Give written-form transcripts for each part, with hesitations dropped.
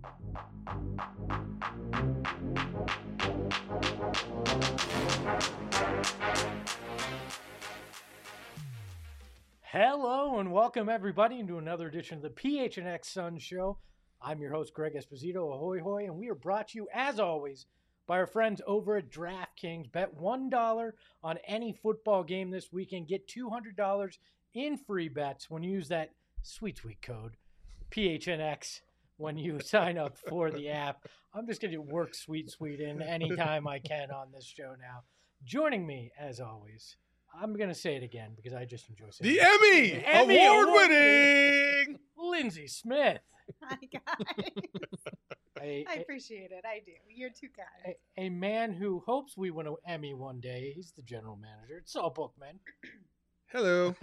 Hello and welcome everybody into another edition of the PHNX Sun Show. I'm your host Greg Esposito, ahoy hoy, and we are brought to you as always by our friends over at DraftKings. Bet $1 on any football game this weekend. Get $200 in free bets when you use that sweet code PHNX when you sign up for the app. I'm just going to work sweet in anytime I can on this show now. Joining me as always, I'm going to say it again because I just enjoy saying it. Emmy award-winning Lindsay Smith. Hi, guys. I appreciate it. I do. You're too kind. A man who hopes we win an Emmy one day. He's the general manager. It's Saul Bookman. Hello.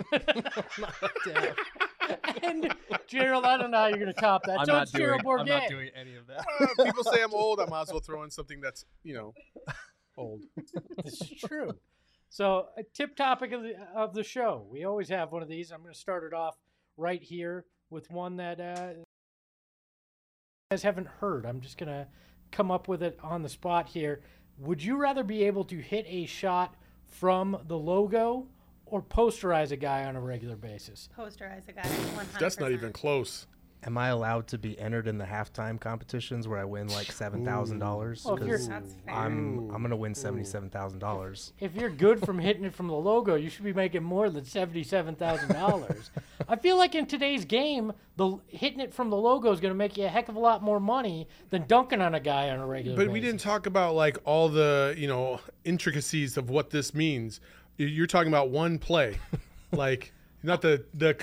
And Gerald, I don't know how you're going to top that. I'm So not it's Gerald doing any of that. People say I'm old. I might as well throw in something that's, old. This is true. So a tip topic of the show. We always have one of these. I'm going to start it off right here with one that you guys haven't heard. I'm just going to come up with it on the spot here. Would you rather be able to hit a shot from the logo or posterize a guy on a regular basis? Posterize a guy, 100%. That's not even close. Am I allowed to be entered in the halftime competitions where I win like $7,000? Well, Because That's fair. I'm gonna win $77,000. If you're good from hitting it from the logo, you should be making more than $77,000. I feel like in today's game, hitting it from the logo is going to make you a heck of a lot more money than dunking on a guy on a regular basis. But we didn't talk about like all the, intricacies of what this means. You're talking about one play, like not the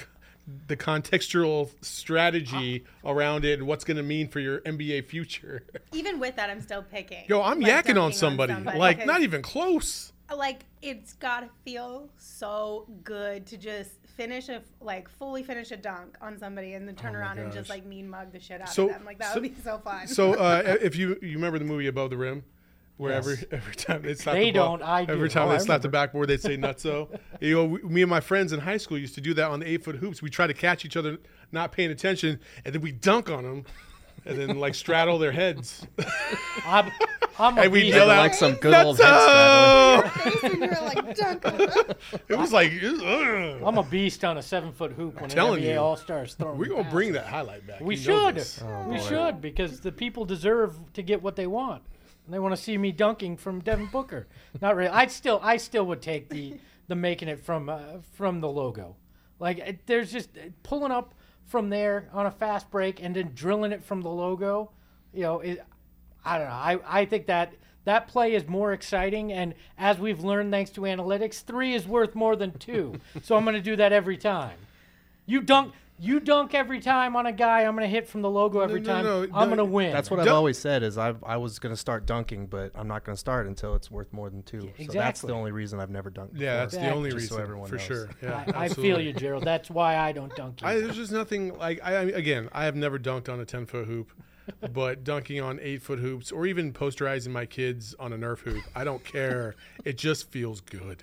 contextual strategy around it and what's going to mean for your NBA future. Even with that, I'm still picking. Yo, I'm yakking on somebody. Like, not even close. Like, it's got to feel so good to just fully finish a dunk on somebody and then turn around and just, mean mug the shit out of them. Like, that would be so fun. So, if you remember the movie Above the Rim? Where Yes. every time they slap They the ball, don't, I do. every time Oh, they I slap the remember. backboard, they'd say nutso. Me and my friends in high school used to do that on the 8-foot hoops. We try to catch each other not paying attention, and then we dunk on them, and then straddle their heads. I'm a And we beast. yell out, like some good old head "Nutso!" Face and you're like, dunk on them. It was like, ugh. I'm a beast on a 7-foot hoop when an telling NBA you. All-Stars throwing We're gonna passes. bring that highlight back. We You know should. this. We boy. should, because the people deserve to get what they want. And they want to see me dunking from Devin Booker. Not really. I still would take the making it from the logo. There's just pulling up from there on a fast break and then drilling it from the logo. I don't know. I think that play is more exciting, and as we've learned thanks to analytics, 3 is worth more than 2. So I'm going to do that every time. You dunk every time on a guy. I'm going to hit from the logo every time. no, I'm going to win. That's what I've always said is I was gonna start dunking, but I'm not gonna start until it's worth more than 2. So that's Exactly. the only reason I've never dunked. Yeah, that's before, the only just reason so everyone for knows. sure. Yeah, I feel absolutely. you, Gerald. That's why I don't dunk you. There's just nothing like I have never dunked on a 10-foot hoop, but dunking on 8-foot hoops or even posterizing my kids on a Nerf hoop, I don't care. It just feels good.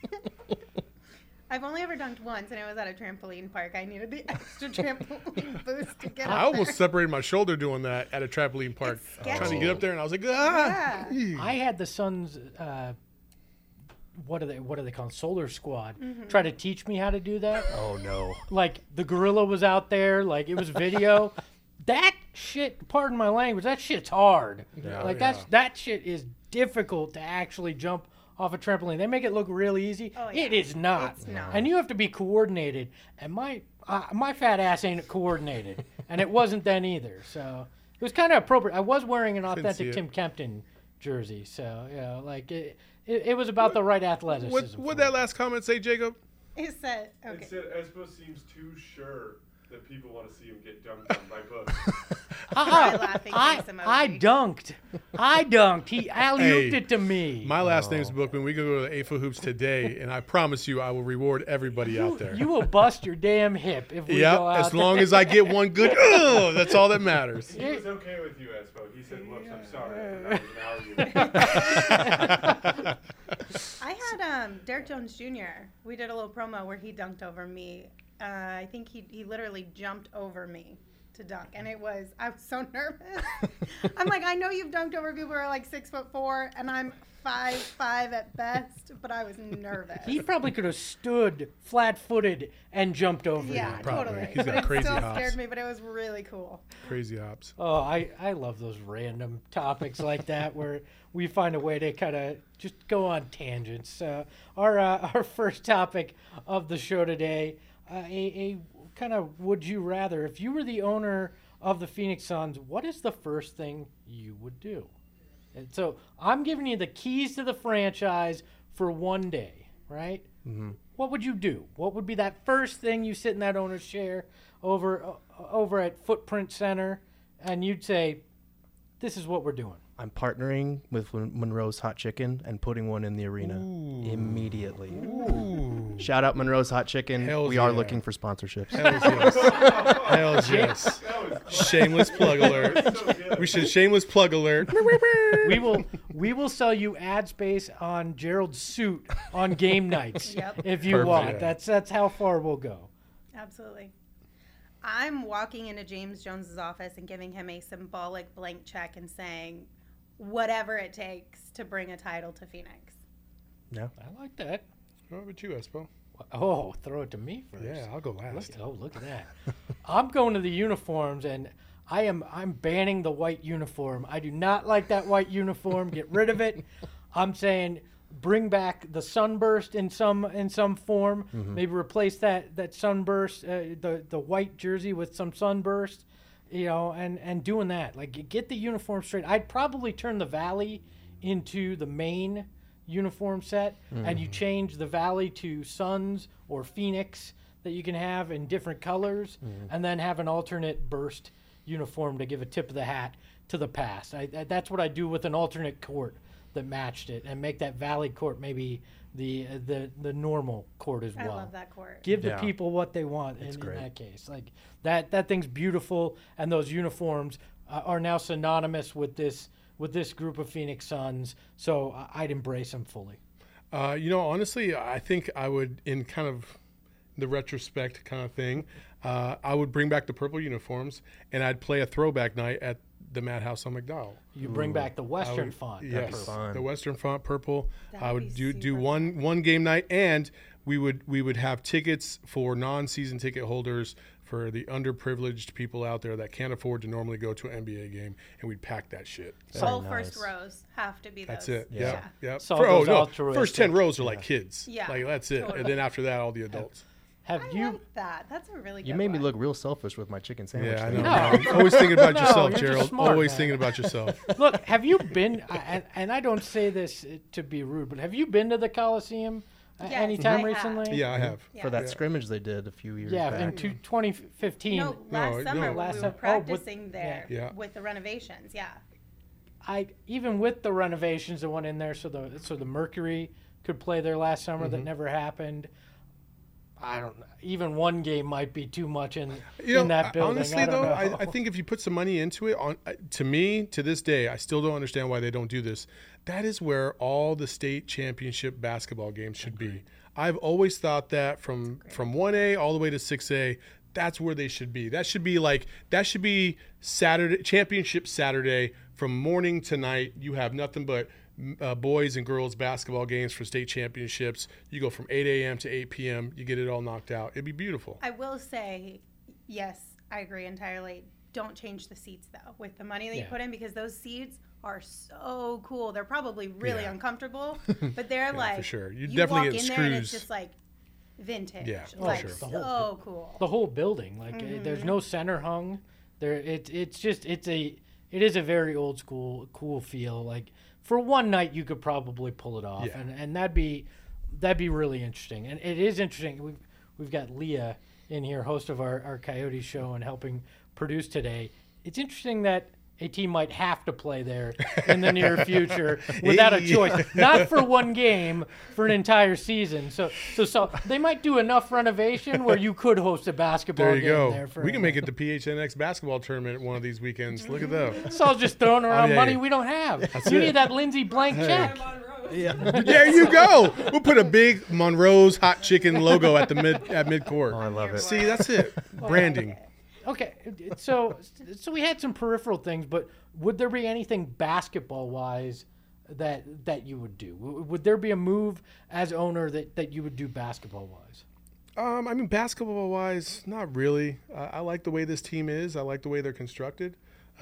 I've only ever dunked once, and it was at a trampoline park. I needed the extra trampoline boost to get I up almost there. separated my shoulder doing that at a trampoline park, It's sketchy. trying to get up there, and I was like, ah. I had the Suns. What are they called? Solar Squad. Mm-hmm. Try to teach me how to do that. Oh no. Like the gorilla was out there. Like it was video. That shit. Pardon my language. That shit's hard. Yeah, that shit is difficult to actually jump off a trampoline. They make it look really easy. Oh, yeah. It is not. It's not. And you have to be coordinated. And my fat ass ain't coordinated. And it wasn't then either. So it was kind of appropriate. I was wearing an see authentic it. Tim Kempton jersey. So it was about the right athleticism. What for would me. that last comment say, Jacob? It said, okay. It said Espo seems too sure that people want to see him get dunked on by Books. Cry laughing face emoji. I dunked. He alley-ooped Hey, it to me. My last name's Bookman. We can go to the 8-foot hoops today, and I promise you, I will reward everybody out there. You will bust your damn hip if we go out as long there. as I get one good. That's all that matters. He was okay with you, Espo. He said, "Whoops, I'm sorry." That was an argument. I had Derek Jones Jr. We did a little promo where he dunked over me. I think he literally jumped over me to dunk. And I was so nervous. I'm like, I know you've dunked over people who are like 6'4", and I'm 5'5" at best, but I was nervous. He probably could have stood flat-footed and jumped over you. Yeah, totally. He's got crazy hops. It hops. still scared me, but it was really cool. Crazy hops. Oh, I love those random topics like that where we find a way to kind of just go on tangents. Our first topic of the show today, a kind of would you rather. If you were the owner of the Phoenix Suns, what is the first thing you would do? And so I'm giving you the keys to the franchise for one day, right? Mm-hmm. What would you do? What would be that first thing you sit in that owner's chair over at Footprint Center, and you'd say, this is what we're doing? I'm partnering with Monroe's Hot Chicken and putting one in the arena immediately. Ooh. Shout out Monroe's Hot Chicken. We are looking for sponsorships. Hells yes. Shameless plug alert. We should shameless plug alert. We will sell you ad space on Gerald's suit on game nights if you Perfect. want. That's how far we'll go. Absolutely. I'm walking into James Jones's office and giving him a symbolic blank check and saying, whatever it takes to bring a title to Phoenix. Yeah. I like that. What about you, Espo? Oh, throw it to me first. Yeah, I'll go last. Look at that. I'm going to the uniforms, and I'm banning the white uniform. I do not like that white uniform. Get rid of it. I'm saying bring back the sunburst in some form. Mm-hmm. Maybe replace that sunburst, the white jersey with some sunburst, and doing that. Like, get the uniform straight. I'd probably turn the Valley into the main uniform set, and you change the Valley to Suns or Phoenix that you can have in different colors, and then have an alternate burst uniform to give a tip of the hat to the past. That's what I do with an alternate court that matched it, and make that Valley court maybe the normal court as well. I love that court. Give the people what they want in that case. Like that thing's beautiful, and those uniforms are now synonymous with this group of Phoenix Suns. So I'd embrace them fully. Honestly, I think I would, in kind of the retrospect kind of thing, I would bring back the purple uniforms, and I'd play a throwback night at the Madhouse on McDowell. You bring back the Western font. Yes, the Western font, purple. I would do fun. one game night, and we would have tickets for non-season ticket holders for the underprivileged people out there that can't afford to normally go to an NBA game, and we'd pack that shit. All first rows have to be those. That's it. Yeah. Yep. First 10 rows are like kids. Yeah. Like, that's it. Totally. And then after that, all the adults. I like that. That's a really good You made me one. look real selfish with my chicken sandwich. Yeah, I thing. know. I'm always thinking about yourself, you're just Gerald. smart, Always man. thinking about yourself. Look, have you been, and I don't say this to be rude, but have you been to the Coliseum Yes, anytime I have. recently? Yeah, I have. Yeah. For that scrimmage they did a few years Yeah, back. in 2015. No, last summer last we summer. were practicing there Yeah. with the renovations. Yeah. Even with the renovations that went in there, so the Mercury could play there last summer, that never happened. I don't know. Even one game might be too much in that building. Honestly, I think if you put some money into it, to me, to this day, I still don't understand why they don't do this. That is where all the state championship basketball games should be. I've always thought that from 1A all the way to 6A, that's where they should be. That should be Saturday, championship Saturday, from morning to night. You have nothing but boys and girls basketball games for state championships. You go from 8 a.m. to 8 p.m. You get it all knocked out. It'd be beautiful. I will say, yes, I agree entirely. Don't change the seats, though, with the money that you put in, because those seats are so cool. They're probably really uncomfortable, but they're like, for sure. You you definitely walk get in there and it's screws. just like vintage. Yeah, like sure. so cool. the whole building, like there's no center hung. It is a very old school, cool feel. Like for one night, you could probably pull it off, and that'd be really interesting. And it is interesting. We've got Leah in here, host of our Coyote show and helping produce today. It's interesting that a team might have to play there in the near future without a choice, not for one game, for an entire season. So they might do enough renovation where you could host a basketball There you game go. there. We can make it the PHNX basketball tournament one of these weekends. Look at that. It's all just throwing around yeah, money yeah. we don't have. You need that Lindsay blank check. There you go. We'll put a big Monroe's Hot Chicken logo at midcourt. Oh, I love it. See, that's it. Branding. Okay, so we had some peripheral things, but would there be anything basketball-wise that you would do? Would there be a move as owner that you would do basketball-wise? I mean, basketball-wise, not really. I like the way this team is. I like the way they're constructed.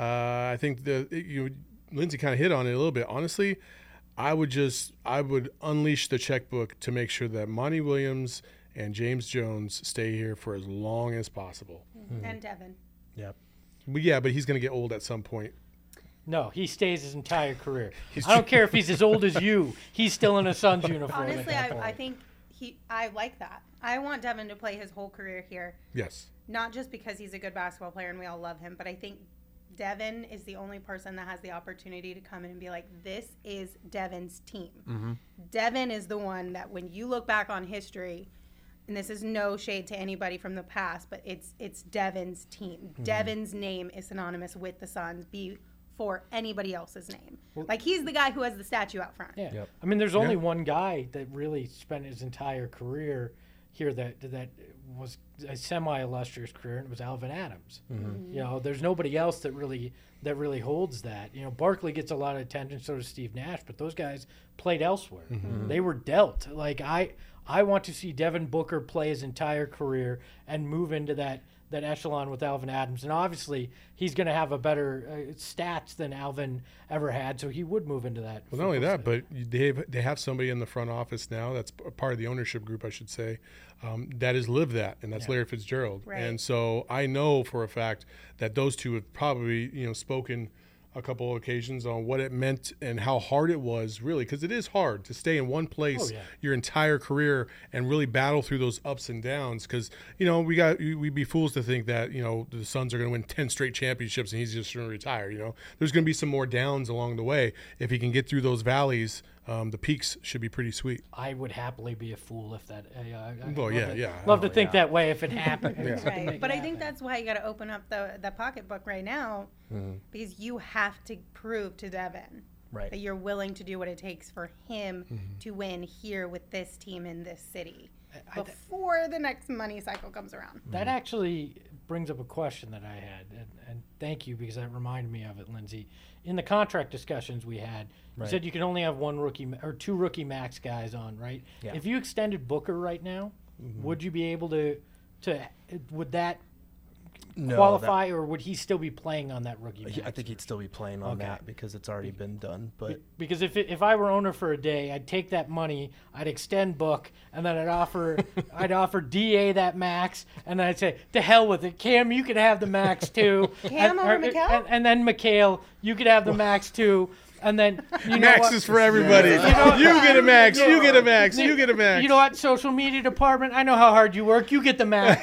I think Lindsay kind of hit on it a little bit. Honestly, I would unleash the checkbook to make sure that Monty Williams and James Jones stay here for as long as possible. Mm-hmm. And Devin. Yep. But he's going to get old at some point. No, he stays his entire career. I don't care if he's as old as you. He's still in a Suns uniform. Honestly, I think I like that. I want Devin to play his whole career here. Yes. Not just because he's a good basketball player and we all love him, but I think Devin is the only person that has the opportunity to come in and be like, this is Devin's team. Mm-hmm. Devin is the one that when you look back on history, and this is no shade to anybody from the past, but it's Devin's team. Mm-hmm. Devin's name is synonymous with the Suns before anybody else's name. Like, he's the guy who has the statue out front. Yeah. Yep. I mean, there's only one guy that really spent his entire career here that was a semi-illustrious career, and it was Alvin Adams. Mm-hmm. You know, there's nobody else that really holds that. You know, Barkley gets a lot of attention, so does Steve Nash, but those guys played elsewhere. Mm-hmm. They were dealt. Like, I want to see Devin Booker play his entire career and move into that echelon with Alvin Adams. And obviously, he's going to have a better stats than Alvin ever had, so he would move into that. Well, not only that, but they have somebody in the front office now that's part of the ownership group, I should say, that has lived that, and that's Larry Fitzgerald. Right. And so I know for a fact that those two have probably spoken a couple of occasions on what it meant and how hard it was, really, because it is hard to stay in one place your entire career and really battle through those ups and downs. Because we'd be fools to think that the Suns are going to win 10 straight championships and he's just going to retire. There's going to be some more downs along the way. If he can get through those valleys, the peaks should be pretty sweet. I would happily be a fool if that. Love to think that way if it happened. Right. But I think that's why you got to open up the pocketbook right now, because you have to prove to Devin that you're willing to do what it takes for him to win here with this team in this city before the next money cycle comes around. That actually brings up a question that I had, and thank you, because that reminded me of it, Lindsay. In the contract discussions we had, you said you can only have one rookie or two rookie max guys on, right? Yeah. If you extended Booker right now, would you be able to would that qualify, or would he still be playing on that rookie max? I think he'd still be playing on that because it's already been done. But because if I were owner for a day, I'd take that money, I'd extend Book, and then I'd offer DA that max, and then I'd say, to hell with it, Cam, you could have the max too. Cam over Mikal? And then Mikal, you could have the max too. And then max is for everybody. Yeah. You get a max. You get a max. You get a max. You know what? Social media department. I know how hard you work. You get the max.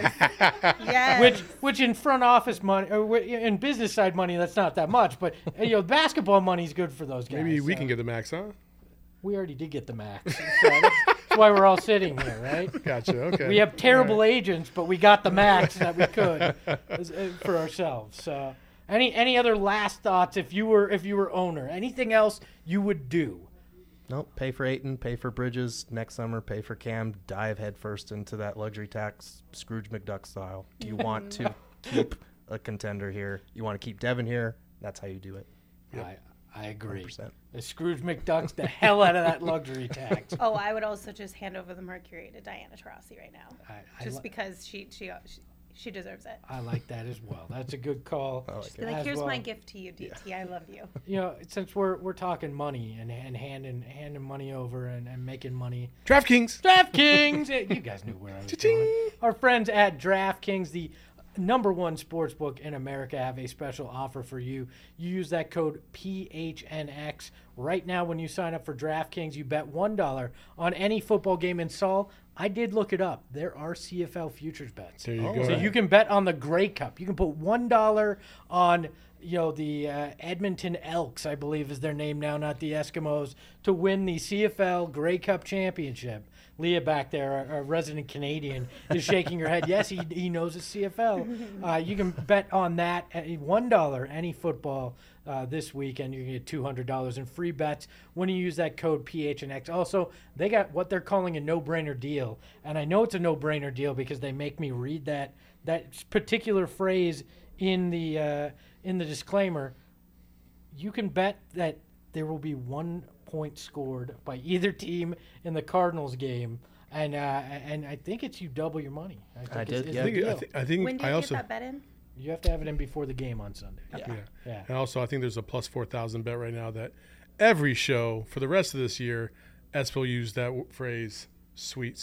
Yes. Which in front office money or in business side money, that's not that much. But basketball money is good for those guys. Maybe we can get the max, huh? We already did get the max. So that's why we're all sitting here, right? Gotcha. Okay. We have terrible agents, but we got the max that we could for ourselves. So. Any other last thoughts if you were owner? Anything else you would do? Nope. Pay for Ayton, pay for Bridges next summer, pay for Cam, dive headfirst into that luxury tax, Scrooge McDuck style. You want to keep a contender here. You want to keep Devin here. That's how you do it. Yep. I agree. 100%. The Scrooge McDuck's the hell out of that luxury tax. Oh, I would also just hand over the Mercury to Diana Taurasi right now, because she deserves it. I like that as well. That's a good call. Just be like, here's my gift to you, DT. I love you. Since we're talking money and handing money over and making money. DraftKings. You guys knew where I was going. Our friends at DraftKings, the #1 sportsbook in America, have a special offer for you. You use that code PHNX right now when you sign up for DraftKings. You bet $1 on any football game in Saul. I did look it up. There are CFL futures bets. There you go. So you can bet on the Grey Cup. You can put $1 on the Edmonton Elks, I believe is their name now, not the Eskimos, to win the CFL Grey Cup championship. Leah back there, our resident Canadian, is shaking her head. Yes, he knows it's CFL. You can bet on that at $1 any football this weekend. You can get $200 in free bets when you use that code PHNX. Also, they got what they're calling a no-brainer deal, and I know it's a no-brainer deal because they make me read that that particular phrase in the disclaimer, you can bet that there will be 1 point scored by either team in the Cardinals game, and I think it's you double your money. I did, it's yeah. the deal. I think When do you I get also that bet in? You have to have it in before the game on Sunday. yeah. And also I think there's a plus 4,000 bet right now that every show for the rest of this year, Espo used that phrase. Sweet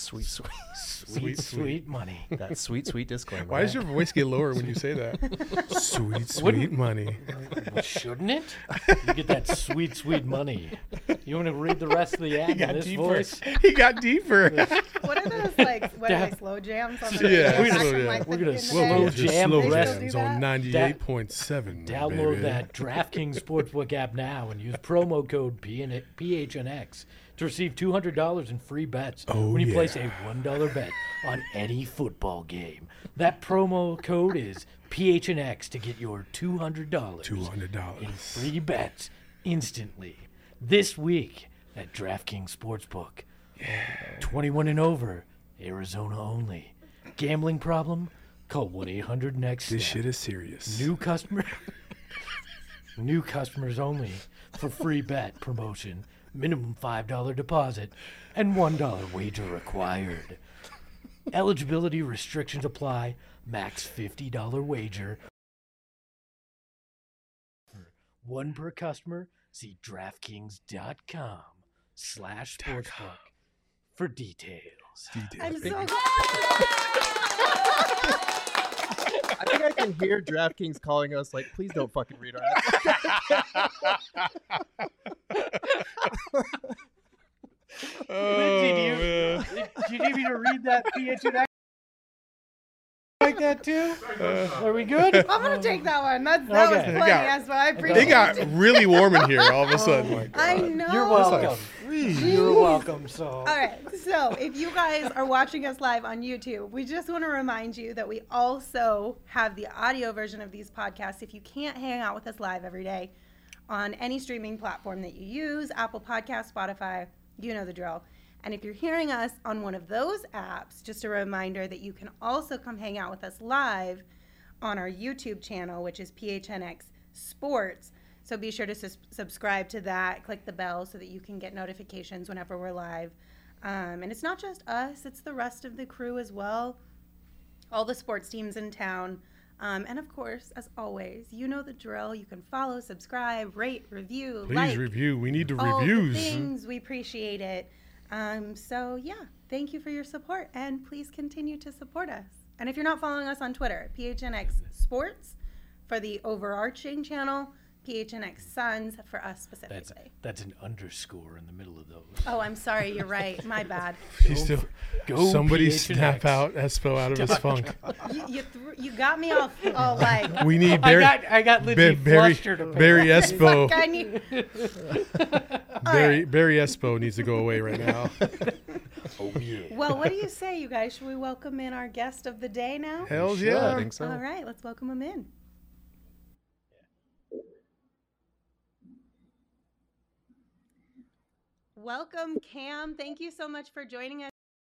money. That sweet disclaimer. Why does your voice get lower when you say that? Sweet money. Well, shouldn't it? You get that sweet money. You want to read the rest of the ad in this voice? He got deeper. What are those like? What are they? Slow jams on the Yeah, radio slow back from, jam. like, We're the gonna end of the slow day? jam slow the rest. jams do on that? 98.7. Download baby. that DraftKings Sportsbook app now and use promo code PHNX to receive $200 in free bets when you place a $1 bet on any football game. That promo code is PHNX to get your $200 in free bets instantly this week at DraftKings Sportsbook. 21 and over, Arizona only. Gambling problem? Call 1-800-NEXT. This shit is serious. New customers only for free bet promotion. Minimum $5 deposit and $1 wager required. Eligibility restrictions apply. Max $50 wager. One per customer. See DraftKings.com/sportsbook for details. I'm so I think I can hear DraftKings calling us like, please don't fucking read our ads. Lindsay, do you need me to read that PHNX like that too? Are we good? I'm gonna take that one. That was Okay. funny. That's what I appreciate. It got really warm in here all of a sudden. I know. You're welcome. You're welcome. So. All right. So if you guys are watching us live on YouTube, we just want to remind you that we also have the audio version of these podcasts. If you can't hang out with us live every day on any streaming platform that you use, Apple Podcasts, Spotify, you know the drill. And if you're hearing us on one of those apps, just a reminder that you can also come hang out with us live on our YouTube channel, which is PHNX Sports. So be sure to subscribe to that, click the bell so that you can get notifications whenever we're live. And it's not just us, it's the rest of the crew as well, all the sports teams in town. And of course, as always, you know the drill. You can follow, subscribe, rate, review, Please review. We need the all reviews. the things. We appreciate it. So yeah, thank you for your support, and please continue to support us. And if you're not following us on Twitter, PHNX Sports for the overarching channel, PHNX Suns for us specifically. That's an underscore in the middle of those. Oh, I'm sorry. You're right. My bad. Somebody PHNX. snap out Espo out of his funk. You got me all like. We need Barry. I got Lindsay flustered. Barry Espo. Like I need. Barry Espo needs to go away right now. Oh yeah. Well, what do you say, you guys? Should we welcome in our guest of the day now? Hells Sure, yeah. I think so. All right, let's welcome him in. Welcome, Cam. Thank you so much for joining us.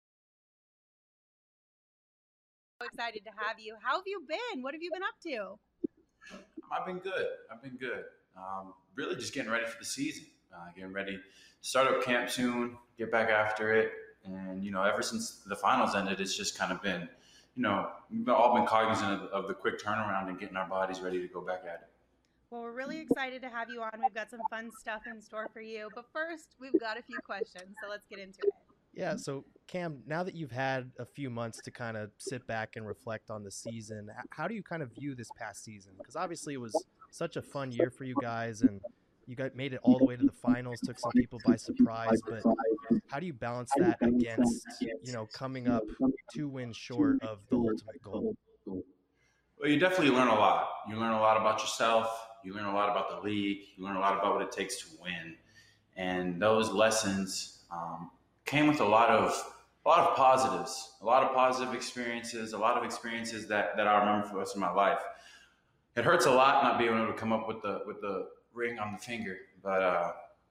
So excited to have you. How have you been? What have you been up to? I've been good. Really just getting ready for the season. Getting ready to start up camp soon, get back after it. And, ever since the finals ended, it's just kind of been, we've all been cognizant of the quick turnaround and getting our bodies ready to go back at it. Well, we're really excited to have you on. We've got some fun stuff in store for you. But first, we've got a few questions, so let's get into it. Yeah, so Cam, now that you've had a few months to kind of sit back and reflect on the season, how do you kind of view this past season? Because obviously it was such a fun year for you guys, and you made it all the way to the finals, took some people by surprise. But how do you balance that against, coming up 2 wins short of the ultimate goal? Well, you definitely learn a lot. You learn a lot about yourself. You learn a lot about the league. You learn a lot about what it takes to win. And those lessons came with a lot of positives, a lot of positive experiences, a lot of experiences that I remember for the rest of my life. It hurts a lot not being able to come up with the ring on the finger, but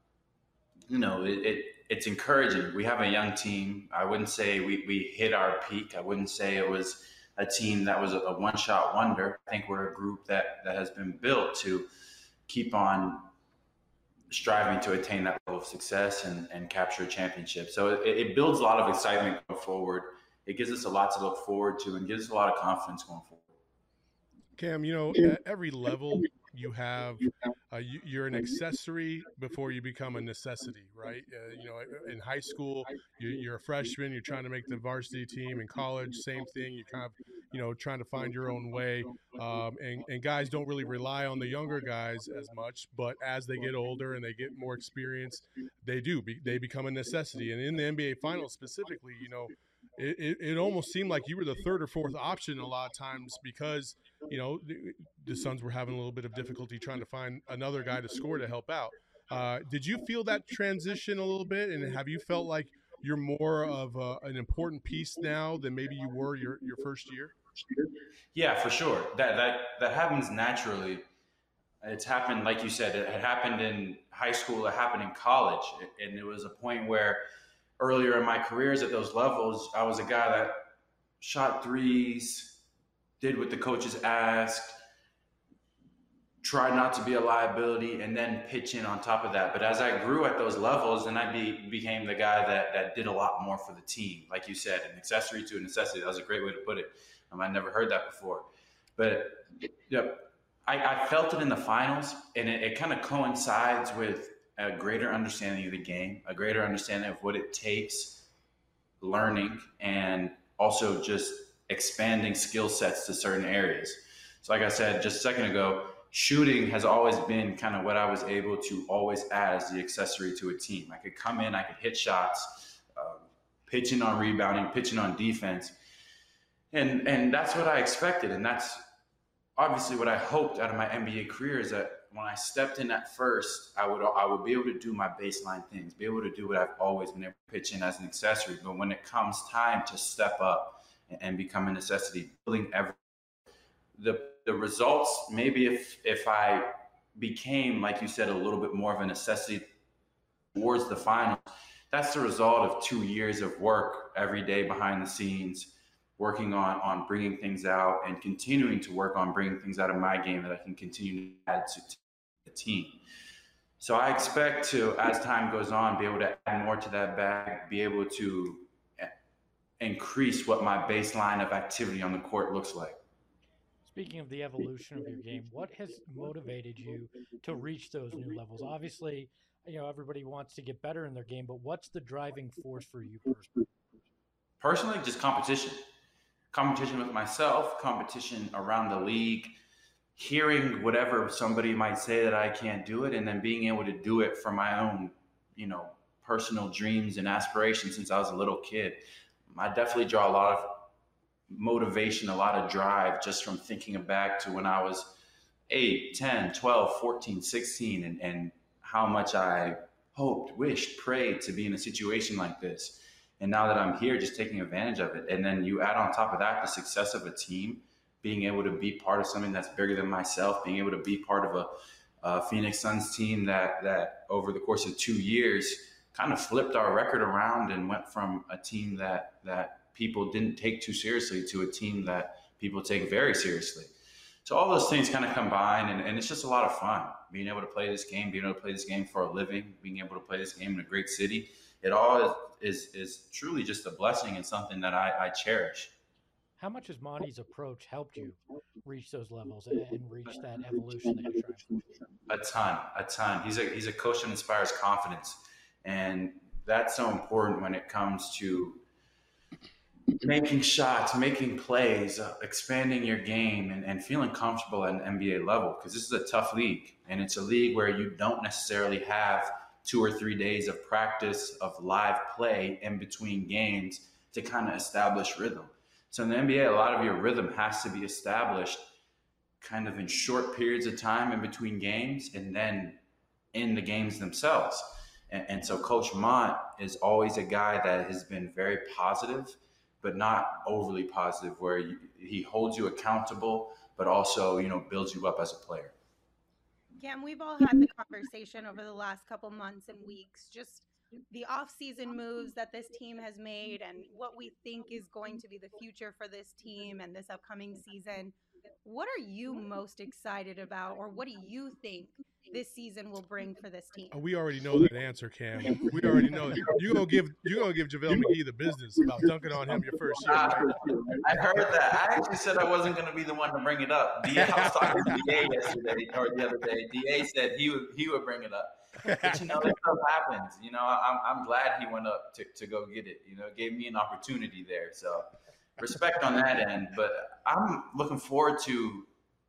it's encouraging. We have a young team. I wouldn't say we hit our peak. I wouldn't say it was a team that was a one-shot wonder. I think we're a group that has been built to keep on striving to attain that level of success and capture a championship. So it builds a lot of excitement going forward. It gives us a lot to look forward to and gives us a lot of confidence going forward. Cam, at every level you have, you're an accessory before you become a necessity, right? In high school, you're a freshman, you're trying to make the varsity team. In college, same thing. You're kind of, trying to find your own way. And guys don't really rely on the younger guys as much, but as they get older and they get more experience, they become a necessity. And in the NBA Finals specifically, it almost seemed like you were the third or fourth option a lot of times because, the Suns were having a little bit of difficulty trying to find another guy to score to help out. Did you feel that transition a little bit? And have you felt like you're more of an important piece now than maybe you were your first year? Yeah, for sure. That happens naturally. It's happened, like you said, it happened in high school, it happened in college. And it was a point where earlier in my careers at those levels, I was a guy that shot threes, did what the coaches asked, tried not to be a liability, and then pitch in on top of that. But as I grew at those levels, then I became the guy that did a lot more for the team. Like you said, an accessory to a necessity. That was a great way to put it. I never heard that before. But I felt it in the finals, and it kind of coincides with a greater understanding of the game, a greater understanding of what it takes, learning, and also just expanding skill sets to certain areas. So like I said just a second ago, shooting has always been kind of what I was able to always add as the accessory to a team. I could come in, I could hit shots, pitching on rebounding, pitching on defense. And that's what I expected. And that's obviously what I hoped out of my NBA career, is that when I stepped in at first, I would be able to do my baseline things, be able to do what I've always been able to pitch in as an accessory. But when it comes time to step up and become a necessity, building the results, maybe if I became, like you said, a little bit more of a necessity towards the final, that's the result of 2 years of work every day behind the scenes, working on bringing things out and continuing to work on bringing things out of my game that I can continue to add to the team. So I expect to, as time goes on, be able to add more to that bag, be able to increase what my baseline of activity on the court looks like. Speaking of the evolution of your game, what has motivated you to reach those new levels? Obviously, everybody wants to get better in their game, but what's the driving force for you personally? Personally, just competition. Competition with myself, competition around the league, hearing whatever somebody might say that I can't do it, and then being able to do it for my own, personal dreams and aspirations since I was a little kid. I definitely draw a lot of motivation, a lot of drive just from thinking back to when I was 8, 10, 12, 14, 16, and how much I hoped, wished, prayed to be in a situation like this. And now that I'm here, just taking advantage of it. And then you add on top of that the success of a team, being able to be part of something that's bigger than myself, being able to be part of a Phoenix Suns team that over the course of 2 years kind of flipped our record around and went from a team that people didn't take too seriously to a team that people take very seriously. So all those things kind of combine, and it's just a lot of fun. Being able to play this game, being able to play this game for a living, being able to play this game in a great city, it all is truly just a blessing and something that I cherish. How much has Monty's approach helped you reach those levels and reach that evolution that you're trying for? A ton. He's a coach that inspires confidence, and that's so important when it comes to making shots, making plays, expanding your game, and feeling comfortable at an NBA level, because this is a tough league, and it's a league where you don't necessarily have 2 or 3 days of practice, of live play in between games to kind of establish rhythm. So in the NBA, a lot of your rhythm has to be established kind of in short periods of time in between games and then in the games themselves. And so Coach Mont is always a guy that has been very positive, but not overly positive, where he holds you accountable, but also, builds you up as a player. Yeah, and we've all had the conversation over the last couple months and weeks, just the off-season moves that this team has made and what we think is going to be the future for this team and this upcoming season, what are you most excited about, or what do you think this season will bring for this team? We already know that answer, Cam. We already know that. You're gonna give JaVale McGee the business about dunking on him your first year, right? I heard that. I actually said I wasn't going to be the one to bring it up. I was talking to DA yesterday or the other day. DA said he would bring it up. But that stuff happens. I'm glad he went up to go get it. It gave me an opportunity there. So respect on that end. But I'm looking forward to.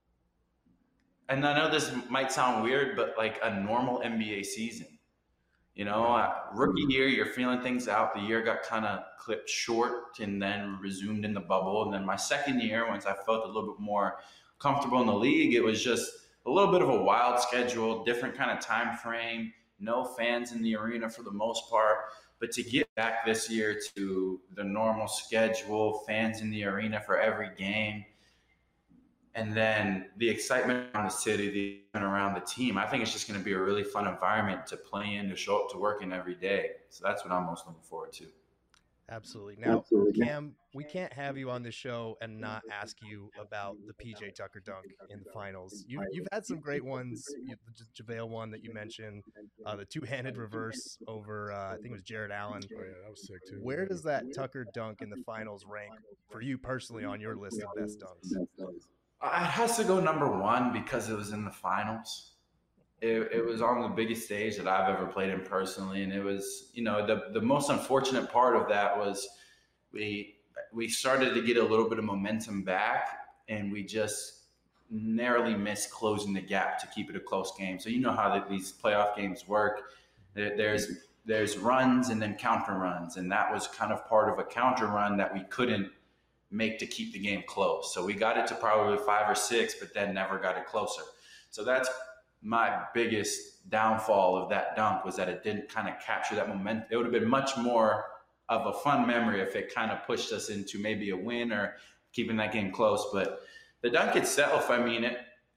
And I know this might sound weird, but like a normal NBA season. Rookie year, you're feeling things out. The year got kind of clipped short and then resumed in the bubble. And then my second year, once I felt a little bit more comfortable in the league, it was just a little bit of a wild schedule, different kind of time frame, no fans in the arena for the most part. But to get back this year to the normal schedule, fans in the arena for every game, and then the excitement around the city, the excitement around the team, I think it's just going to be a really fun environment to play in, to show up to work in every day. So that's what I'm most looking forward to. Absolutely. Now, Cam, we can't have you on the show and not ask you about the PJ Tucker dunk in the finals. You've had some great ones. The JaVale one that you mentioned, the two-handed reverse over, I think it was Jared Allen. Oh, yeah, that was sick, too. Where does that Tucker dunk in the finals rank for you personally on your list of best dunks? It has to go number one because it was in the finals. It was on the biggest stage that I've ever played in personally, and it was, the most unfortunate part of that was we started to get a little bit of momentum back, and we just narrowly missed closing the gap to keep it a close game. So you know how these playoff games work. There's runs and then counter runs, and that was kind of part of a counter run that we couldn't make to keep the game close. So we got it to probably 5 or 6, but then never got it closer. So that's my biggest downfall of that dunk, was that it didn't kind of capture that momentum. It would have been much more of a fun memory if it kind of pushed us into maybe a win or keeping that game close. But the dunk itself, I mean,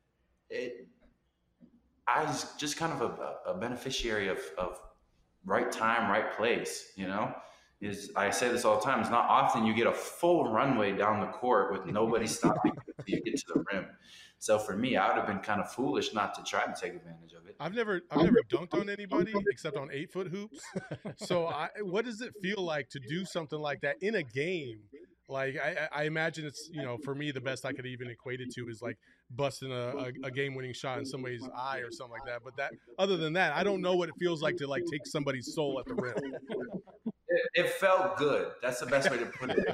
I was just kind of a beneficiary of right time, right place, I say this all the time. It's not often you get a full runway down the court with nobody stopping until you get to the rim. So for me, I would have been kind of foolish not to try to take advantage of it. I've never dunked on anybody except on 8-foot hoops. So what does it feel like to do something like that in a game? Like I imagine it's, for me, the best I could even equate it to is like busting a game-winning shot in somebody's eye or something like that. But other than that, I don't know what it feels like to like take somebody's soul at the rim. It felt good. That's the best way to put it.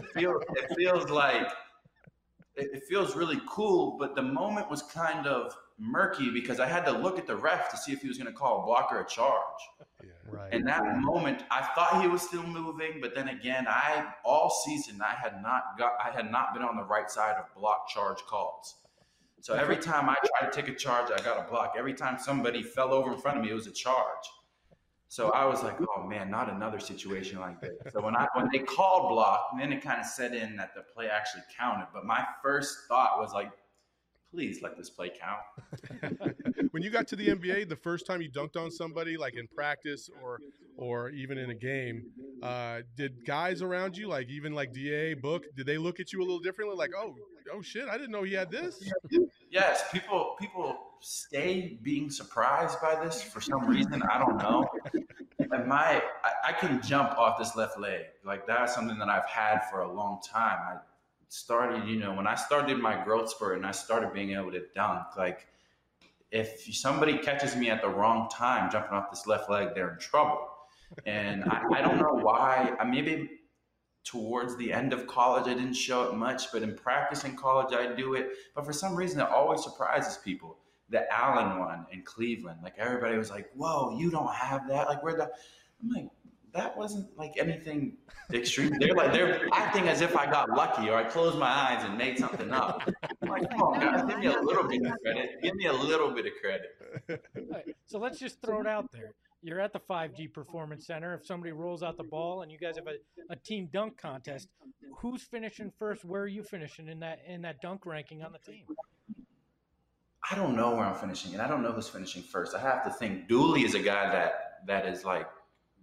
It feels really cool, but the moment was kind of murky because I had to look at the ref to see if he was going to call a block or a charge. Yeah, right. And that moment, I thought he was still moving, but then again, all season I had not been on the right side of block charge calls. So every time I tried to take a charge, I got a block. Every time somebody fell over in front of me, it was a charge. So I was like, oh man, not another situation like this. So when they called block, then it kind of set in that the play actually counted. But my first thought was like, please let this play count. When you got to the NBA, the first time you dunked on somebody, like in practice or even in a game, did guys around you, like even like DA, Book, did they look at you a little differently? Like, oh shit, I didn't know he had this. Yes, people stay being surprised by this for some reason. I don't know. And I can jump off this left leg. Like that's something that I've had for a long time. I started, when I started my growth spurt and I started being able to dunk, like if somebody catches me at the wrong time jumping off this left leg, they're in trouble. And I don't know why. Maybe towards the end of college, I didn't show it much, but in practice in college, I do it. But for some reason, it always surprises people. The Allen one in Cleveland, like everybody was like, whoa, you don't have that? Like I'm like, that wasn't like anything extreme. They're acting as if I got lucky or I closed my eyes and made something up. I'm like, come on, guys, give me a little bit of credit. Give me a little bit of credit. Right, so let's just throw it out there. You're at the 5G Performance Center. If somebody rolls out the ball and you guys have a team dunk contest, who's finishing first? Where are you finishing in that dunk ranking on the team? I don't know where I'm finishing, and I don't know who's finishing first. I have to think. Dooley is a guy that is like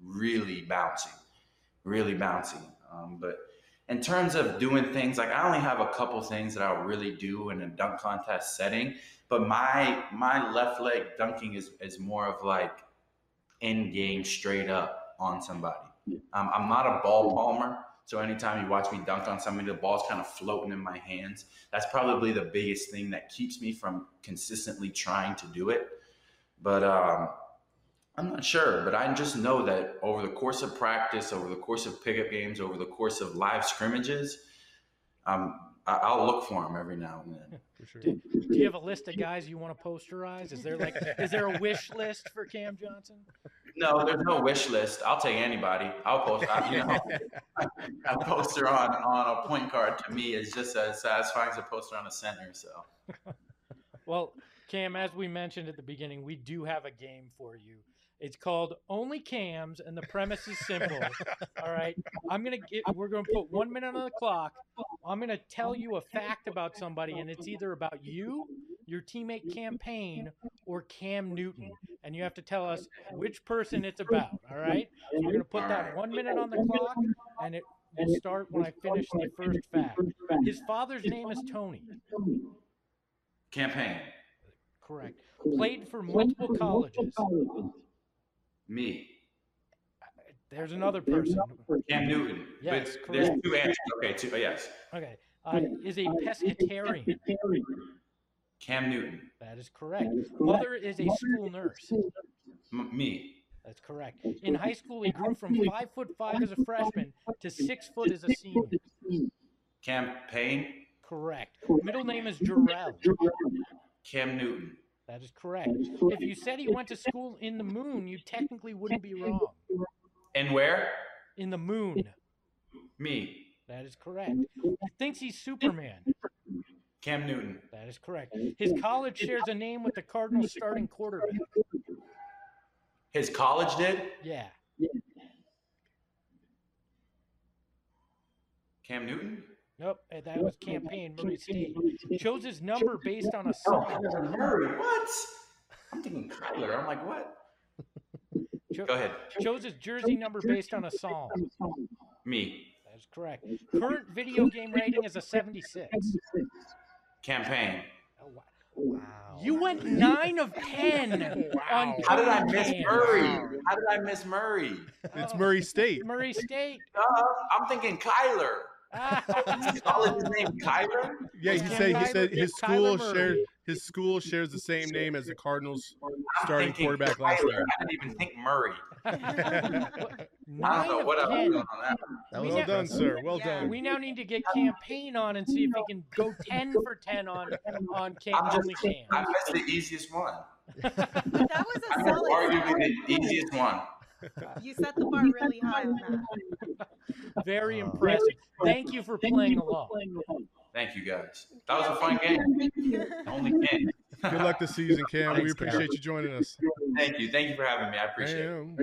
really bouncy, really bouncy. But in terms of doing things, like I only have a couple things that I'll really do in a dunk contest setting. But my left leg dunking is more of like end game, straight up on somebody. I'm not a ball palmer. So anytime you watch me dunk on somebody, the ball's kind of floating in my hands. That's probably the biggest thing that keeps me from consistently trying to do it. But I'm not sure. But I just know that over the course of practice, over the course of pickup games, over the course of live scrimmages, I'll look for them every now and then. For sure. Do you have a list of guys you want to posterize? Is there a wish list for Cam Johnson? No, there's no wish list. I'll take anybody. I'll post. A poster on a point guard to me is just as satisfying as a poster on a center. So, well, Cam, as we mentioned at the beginning, we do have a game for you. It's called Only Cams, and the premise is simple. All right, we're gonna put 1 minute on the clock. I'm gonna tell you a fact about somebody, and it's either about you, your teammate Cam Payne, or Cam Newton, and you have to tell us which person it's about. All right, so we're gonna put that 1 minute on the clock, and it will start when I finish the first fact. His father's name is Tony. Campaign. Correct. Played for multiple colleges. Me. There's another person. Cam Newton. Yes, but there's correct. two answers. Okay, two. Yes. Okay. Is a pescatarian. Cam Newton. That is correct. Mother is a school nurse. Me. That's correct. In high school, he grew from 5'5" as a freshman to 6 foot as a senior. Campaign. Correct. Middle name is Jarrell. Cam Newton. That is correct. If you said he went to school in the moon, you technically wouldn't be wrong. And where? In the moon. Me. That is correct. He thinks he's Superman. Cam Newton. That is correct. His college shares a name with the Cardinals starting quarterback. His college did? Yeah. Cam Newton? Nope, that was Campaign, Murray State. Chose his number based on a song. Murray, what? I'm thinking Kyler. I'm like, what? Go ahead. Chose his jersey number based on a song. Me. That is correct. Current video game rating is a 76. Campaign. Oh, wow. You went 9 of 10 on How did I miss Cam. Murray? How did I miss Murray? It's Murray State. Murray State. I'm thinking Kyler. College name Kyler? Yeah, he Cam said Kyler? his Kyler school Murray. his school shares the same name as the Cardinals I'm starting thinking quarterback Kyler. last year. I didn't even think Murray. I 9 don't know of what I was 10. doing on that. That was Well done, impressive. sir. Well Yeah. done. We now need to get Campaign on and see if he can go 10 for 10 on Cam. Only Cam. I missed the easiest one. That was a I missed solid arguably start. the easiest one. You set the bar really high on that. Very impressive. Thank you for playing along. Thank you, guys. That was a fun game. Only game. Good luck this season, Cam. We Thanks, Cam. appreciate you joining us. Thank you. Thank you for having me. I appreciate it.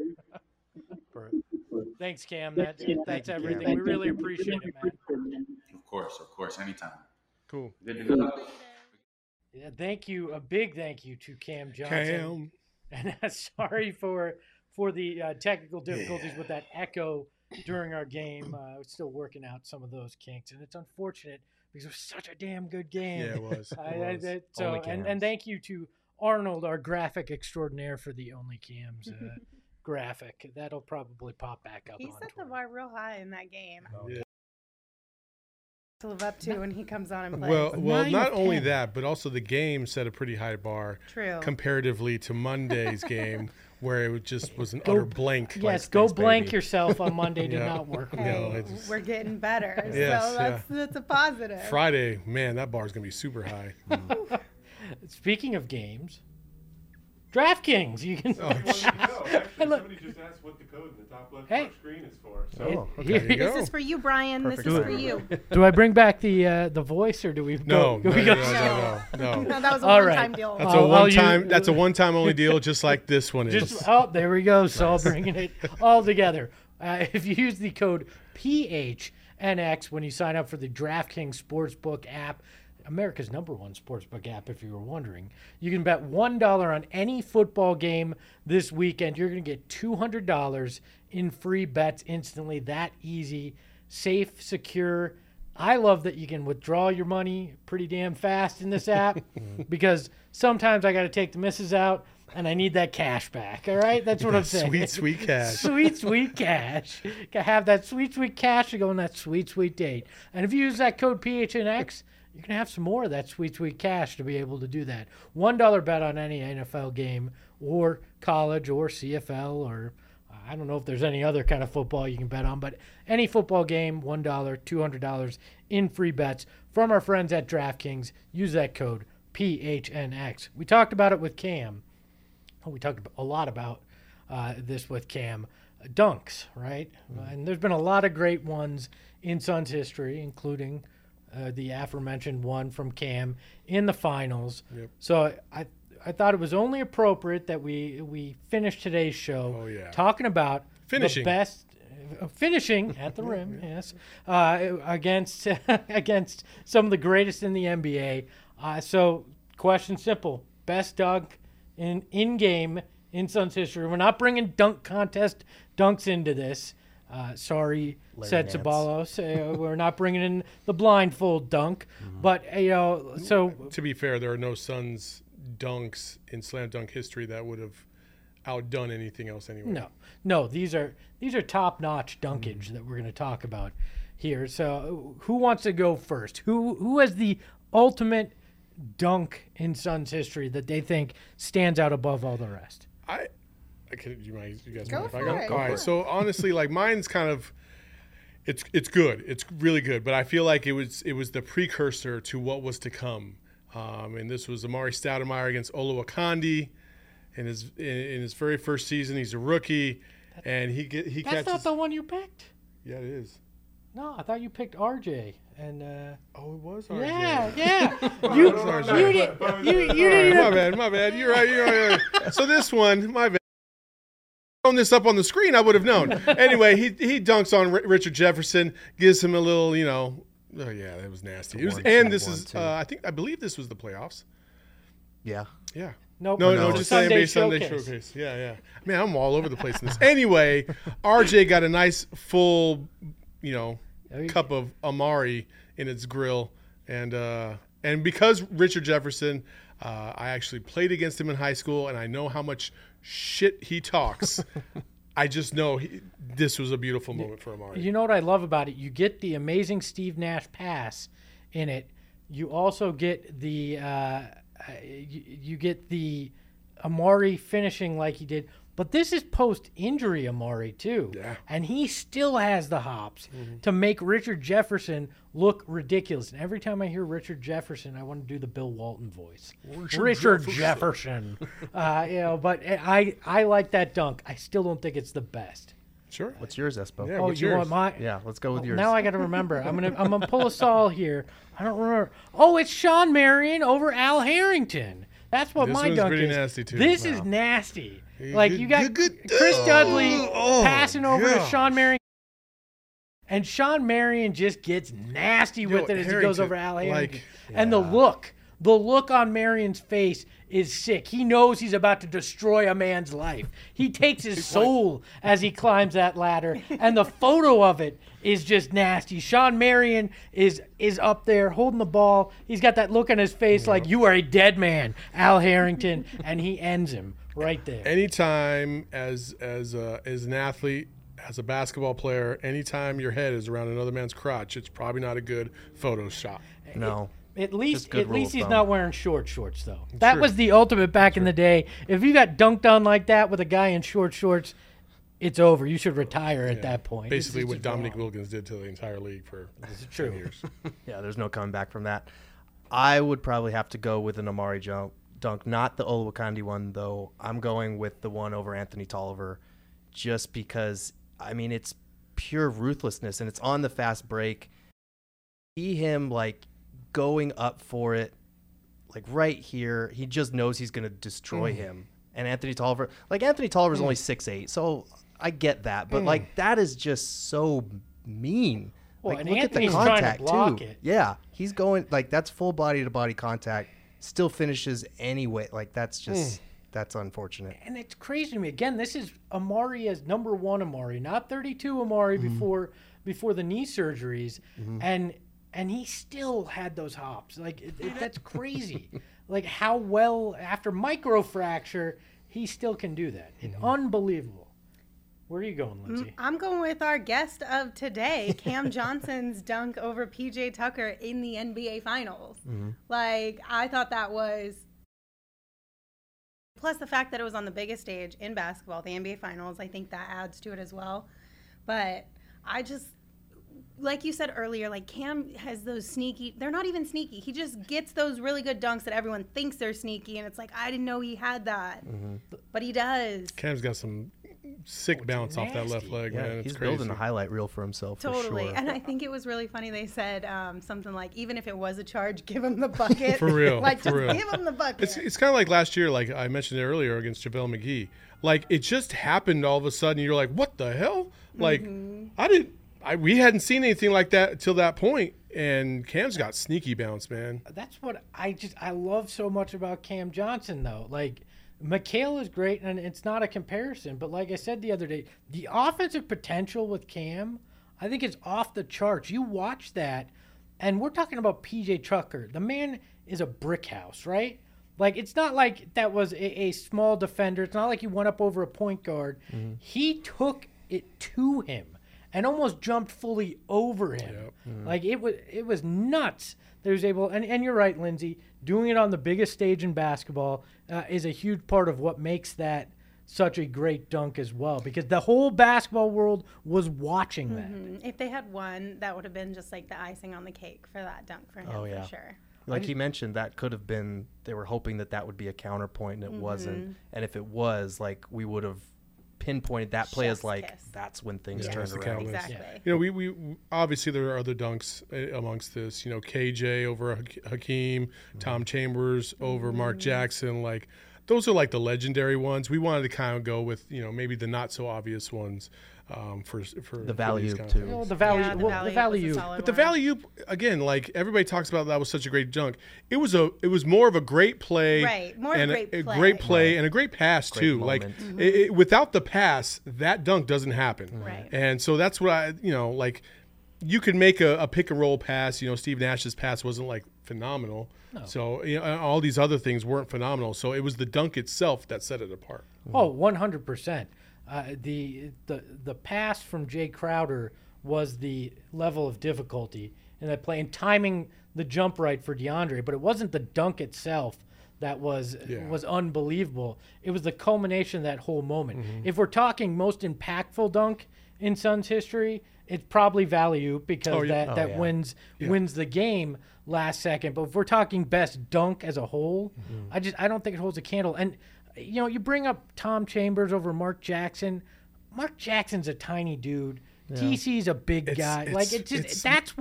Thanks, Cam. That's everything. We really appreciate it, man. Of course. Anytime. Cool. Good to go. Yeah, thank you. A big thank you to Cam Johnson. Cam. And sorry for the technical difficulties with that echo during our game. We're still working out some of those kinks, and it's unfortunate because it was such a damn good game. Yeah, it was. So, Only and Cams. thank you to Arnold, our graphic extraordinaire, for the Only Cams graphic. That'll probably pop back up. He on set the Twitter. bar real high in that game. Yeah. To live up to when he comes on and plays. Well, 9 not of only 10. that, but also the game set a pretty high bar True. comparatively to Monday's game, where it just was an utter blank. Yes, go Thanks, blank baby. yourself on Monday did Yeah. not work. No, Hey, it's just- we're getting better. Yes, so that's a positive. Friday, man, that bar is gonna be super high. Speaking of games, DraftKings. You can. Oh, Well, no, actually, look. somebody just asked what the code in the top left Hey. screen is for. So Oh, okay. Here- There you This go. is for you, Brian. Perfect This is for timing. you. Do I bring back the voice or do we No, go? no, we no, go no. No, that was a All right. one-time deal. That's I'll a one use- time. That's a one-time only deal, just like this one is. Just there we go. Saul bringing it all together. If you use the code PHNX when you sign up for the DraftKings Sportsbook app, America's #1 sportsbook app, if you were wondering. You can bet $1 on any football game this weekend. You're going to get $200 in free bets instantly. That easy, safe, secure. I love that you can withdraw your money pretty damn fast in this app because sometimes I got to take the missus out and I need that cash back. All right? That's what I'm saying. Sweet, sweet cash. Sweet, sweet cash. Got to have that sweet, sweet cash to go on that sweet, sweet date. And if you use that code PHNX, you can have some more of that sweet, sweet cash to be able to do that. $1 bet on any NFL game or college or CFL or I don't know if there's any other kind of football you can bet on, but any football game, $1, $200 in free bets from our friends at DraftKings. Use that code PHNX. We talked about it with Cam. We talked a lot about this with Cam. Dunks, right? And there's been a lot of great ones in Suns history, including the aforementioned one from Cam in the finals. Yep. So I thought it was only appropriate that we finish today's show talking about Finishing. the best finishing at the rim, yes, against against some of the greatest in the NBA. So question simple: best dunk in game in Suns history. We're not bringing dunk contest dunks into this. Sorry, Larry said Nance. Ceballos. We're not bringing in the blindfold dunk, but so To be fair, there are no Suns dunks in slam dunk history that would have outdone anything else anyway. no, these are top-notch dunkage that we're going to talk about here. So, who wants to go first? Who has the ultimate dunk in Suns history that they think stands out above all the rest? You guys Go mind if I for go? it. All right. So honestly, like mine's kind of, it's good. It's really good. But I feel like it was the precursor to what was to come. And this was Amari Stoudemire against Oluwakandi in his very first season. He's a rookie, and he That's catches. not the one you picked. Yeah, it is. No, I thought you picked RJ. And Oh, it was. RJ. yeah. Oh, you it was RJ. you didn't even My bad. You're right. So this one, my bad. Thrown this up on the screen, I would have known. Anyway, he dunks on Richard Jefferson, gives him a little, oh yeah, that was nasty. I believe this was the playoffs. Yeah. Yeah. Nope. No, just Sunday Sunday Showcase. Showcase. Yeah. Man, I'm all over the place in this. Anyway, RJ got a nice full, cup of Amari in its grill, and because Richard Jefferson, I actually played against him in high school, and I know how much shit he talks. I just know this was a beautiful moment for Amari. You know what I love about it? You get the amazing Steve Nash pass in it. You also get the you get the Amari finishing like he did. But this is post-injury Amari, too. Yeah. And he still has the hops to make Richard Jefferson look ridiculous. And every time I hear Richard Jefferson, I want to do the Bill Walton voice. Richard Jefferson. But I like that dunk. I still don't think it's the best. Sure. What's yours, Espo? Yeah, Oh, what's you yours? want my... Yeah, let's go with yours. Now I got to remember. I'm gonna pull a Saul here. I don't remember. Oh, it's Sean Marion over Al Harrington. That's what This my one's dunk pretty is. nasty, too. This Wow. is nasty. Like you got Good. Chris Dudley passing over to gosh. Sean Marion, and Sean Marion just gets nasty with it as he goes Harrington, over Al Harrington. like- And the look on Marion's face is sick. He knows he's about to destroy a man's life. He takes his soul as he climbs that ladder, and the photo of it is just nasty. Sean Marion is up there holding the ball. He's got that look on his face like you are a dead man, Al Harrington, and he ends him right there. Anytime as an athlete, as a basketball player, anytime your head is around another man's crotch, it's probably not a good photo shot. No. At least Just good rule of he's thumb. not wearing shorts though. That Sure. was the ultimate back in the day. If you got dunked on like that with a guy in shorts, it's over. You should retire at that point. Basically, It's what just Dominic wrong. Wilkins did to the entire league for True. 10 years. Yeah, there's no coming back from that. I would probably have to go with an Amari dunk, not the Oluwakandi one, though. I'm going with the one over Anthony Tolliver just because, it's pure ruthlessness, and it's on the fast break. See him, going up for it, right here. He just knows he's going to destroy him. And Anthony Tolliver's only 6'8", so I get that. But, that is just so mean. Well, Like, and look at the Anthony's trying to contact block too. it. Yeah, he's going like that's full body to body contact. Still finishes anyway. Like that's just that's unfortunate. And it's crazy to me. Again, this is Amari as number 1 Amari, not 32 Amari before the knee surgeries, and he still had those hops. Like that's crazy. Like how well after microfracture he still can do that. It's unbelievable. Where are you going, Lindsay? I'm going with our guest of today, Cam Johnson's dunk over PJ Tucker in the NBA Finals. Like, I thought that was. Plus, the fact that it was on the biggest stage in basketball, the NBA Finals, I think that adds to it as well. But I just, like you said earlier, like Cam has those sneaky, they're not even sneaky. He just gets those really good dunks that everyone thinks they're sneaky. And it's like, I didn't know he had that. But he does. Cam's got some sick bounce off that left nasty. leg, Yeah, man. It's he's crazy. building a highlight reel for himself. Totally. For sure. And I think it was really funny. They said something like, even if it was a charge, give him the bucket. For real, Like, for just real. give him the bucket. It's kind of like last year, like I mentioned it earlier against JaVale McGee. Like it just happened all of a sudden. You're like, what the hell? Like we hadn't seen anything like that till that point. And Cam's got sneaky bounce, man. That's what I love so much about Cam Johnson, though. Like, Mikal is great, and it's not a comparison. But like I said the other day, the offensive potential with Cam, I think is off the charts. You watch that, and we're talking about PJ Tucker. The man is a brick house, right? Like, it's not like that was a small defender. It's not like he went up over a point guard. He took it to him and almost jumped fully over him. Like, it was nuts that he was able, and you're right, Lindsay, doing it on the biggest stage in basketball is a huge part of what makes that such a great dunk as well, because the whole basketball world was watching that. If they had won, that would have been just like the icing on the cake for that dunk for him, for sure. Like he mentioned, that could have been, they were hoping that would be a counterpoint, and it wasn't. And if it was, like, we would have pinpointed that play as, Chef's like, kiss. that's when things Yeah, turned that's the around. catalyst. Exactly. You know, we obviously there are other dunks amongst this. You know, KJ over Hakeem, Tom Chambers over Mark Jackson. Like, those are like the legendary ones. We wanted to kind of go with, you know, maybe the not so obvious ones for The value, these kind of too. things. Well, the value, Yeah, the value. was a solid But the one. value, again, like everybody talks about, that was such a great dunk. It was more of a great play, Right, more and great a play. great play and a great pass Great too. moment. Like without the pass, that dunk doesn't happen. Right. And so that's what I, you know, like you could make a pick and roll pass. You know, Steve Nash's pass wasn't like phenomenal. No. So you know, all these other things weren't phenomenal. So it was the dunk itself that set it apart. Oh, 100%. The pass from Jay Crowder was the level of difficulty in that play, and timing the jump right for DeAndre, but it wasn't the dunk itself that was unbelievable. It was the culmination of that whole moment. If we're talking most impactful dunk in Suns history, it's probably Valley-Oop, because that wins the game last second. But if we're talking best dunk as a whole, I don't think it holds a candle. And you know, you bring up Tom Chambers over Mark Jackson. Mark Jackson's a tiny dude. Yeah. TC's a big guy. That's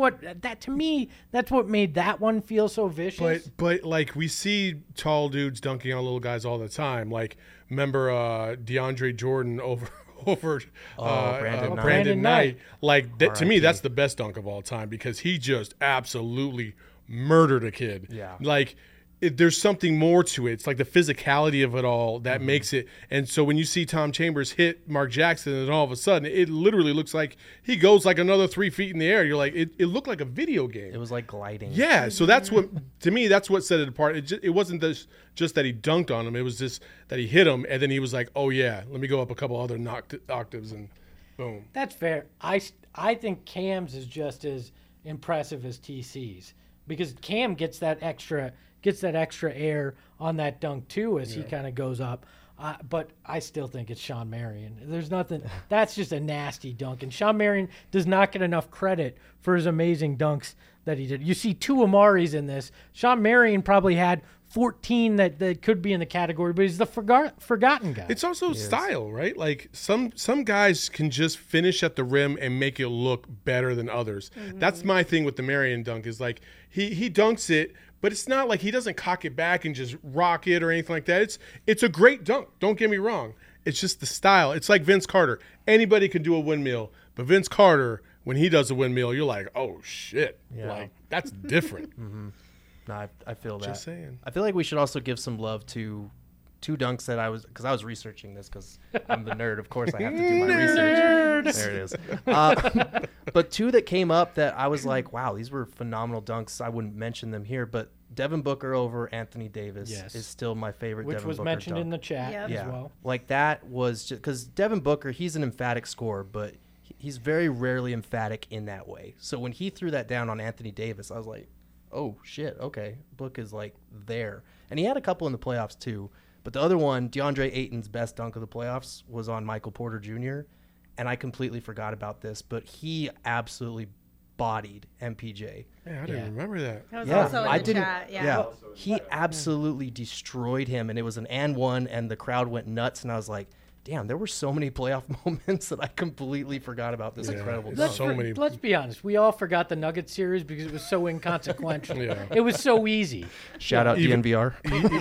what made that one feel so vicious. But like we see tall dudes dunking on little guys all the time. Like remember DeAndre Jordan over Brandon Knight. Like to me, that's the best dunk of all time, because he just absolutely murdered a kid. Yeah. Like there's something more to it. It's like the physicality of it all that makes it. And so when you see Tom Chambers hit Mark Jackson, and all of a sudden it literally looks like he goes like another 3 feet in the air. You're like, it looked like a video game. It was like gliding. Yeah. So that's what, to me, that's what set it apart. It wasn't just that he dunked on him. It was just that he hit him, and then he was like, oh yeah, let me go up a couple other octaves, and boom. That's fair. I think Cam's is just as impressive as TC's, because Cam gets that extra air on that dunk too as he kind of goes up. But I still think it's Shawn Marion. There's nothing. That's just a nasty dunk, and Shawn Marion does not get enough credit for his amazing dunks that he did. You see two Amaris in this. Shawn Marion probably had 14 that could be in the category, but he's the forgotten guy. It's also style, right? Like some guys can just finish at the rim and make it look better than others. That's my thing with the Marion dunk, is like he dunks it, but it's not like he doesn't cock it back and just rock it or anything like that. It's a great dunk. Don't get me wrong. It's just the style. It's like Vince Carter. Anybody can do a windmill, but Vince Carter when he does a windmill, you're like, oh shit, Yeah. like that's different. No, I feel that. Just saying. I feel like we should also give some love to two dunks that I was researching this because I'm the nerd. Of course, I have to do my research. There it is. But two that came up that I was like, wow, these were phenomenal dunks. I wouldn't mention them here, but Devin Booker over Anthony Davis Yes. is still my favorite. Which Devin was Booker mentioned dunk. in the chat Yep. as well. Like that was just because Devin Booker, he's an emphatic scorer, but he's very rarely emphatic in that way. So when he threw that down on Anthony Davis, I was like, oh shit, okay, Book is like there. And he had a couple in the playoffs too. But the other one, DeAndre Ayton's best dunk of the playoffs was on Michael Porter Jr. And I completely forgot about this, but he absolutely bodied MPJ. Yeah, I didn't remember that. That was Yeah, also in I the didn't- chat. Yeah. He absolutely destroyed him, and it was an and one, and the crowd went nuts. And I was like, damn, there were so many playoff moments that I completely forgot about this Yeah, incredible it's dunk. so many. Let's be honest. We all forgot the Nuggets series because it was so inconsequential. Yeah. It was so easy. Shout out Even- DNVR.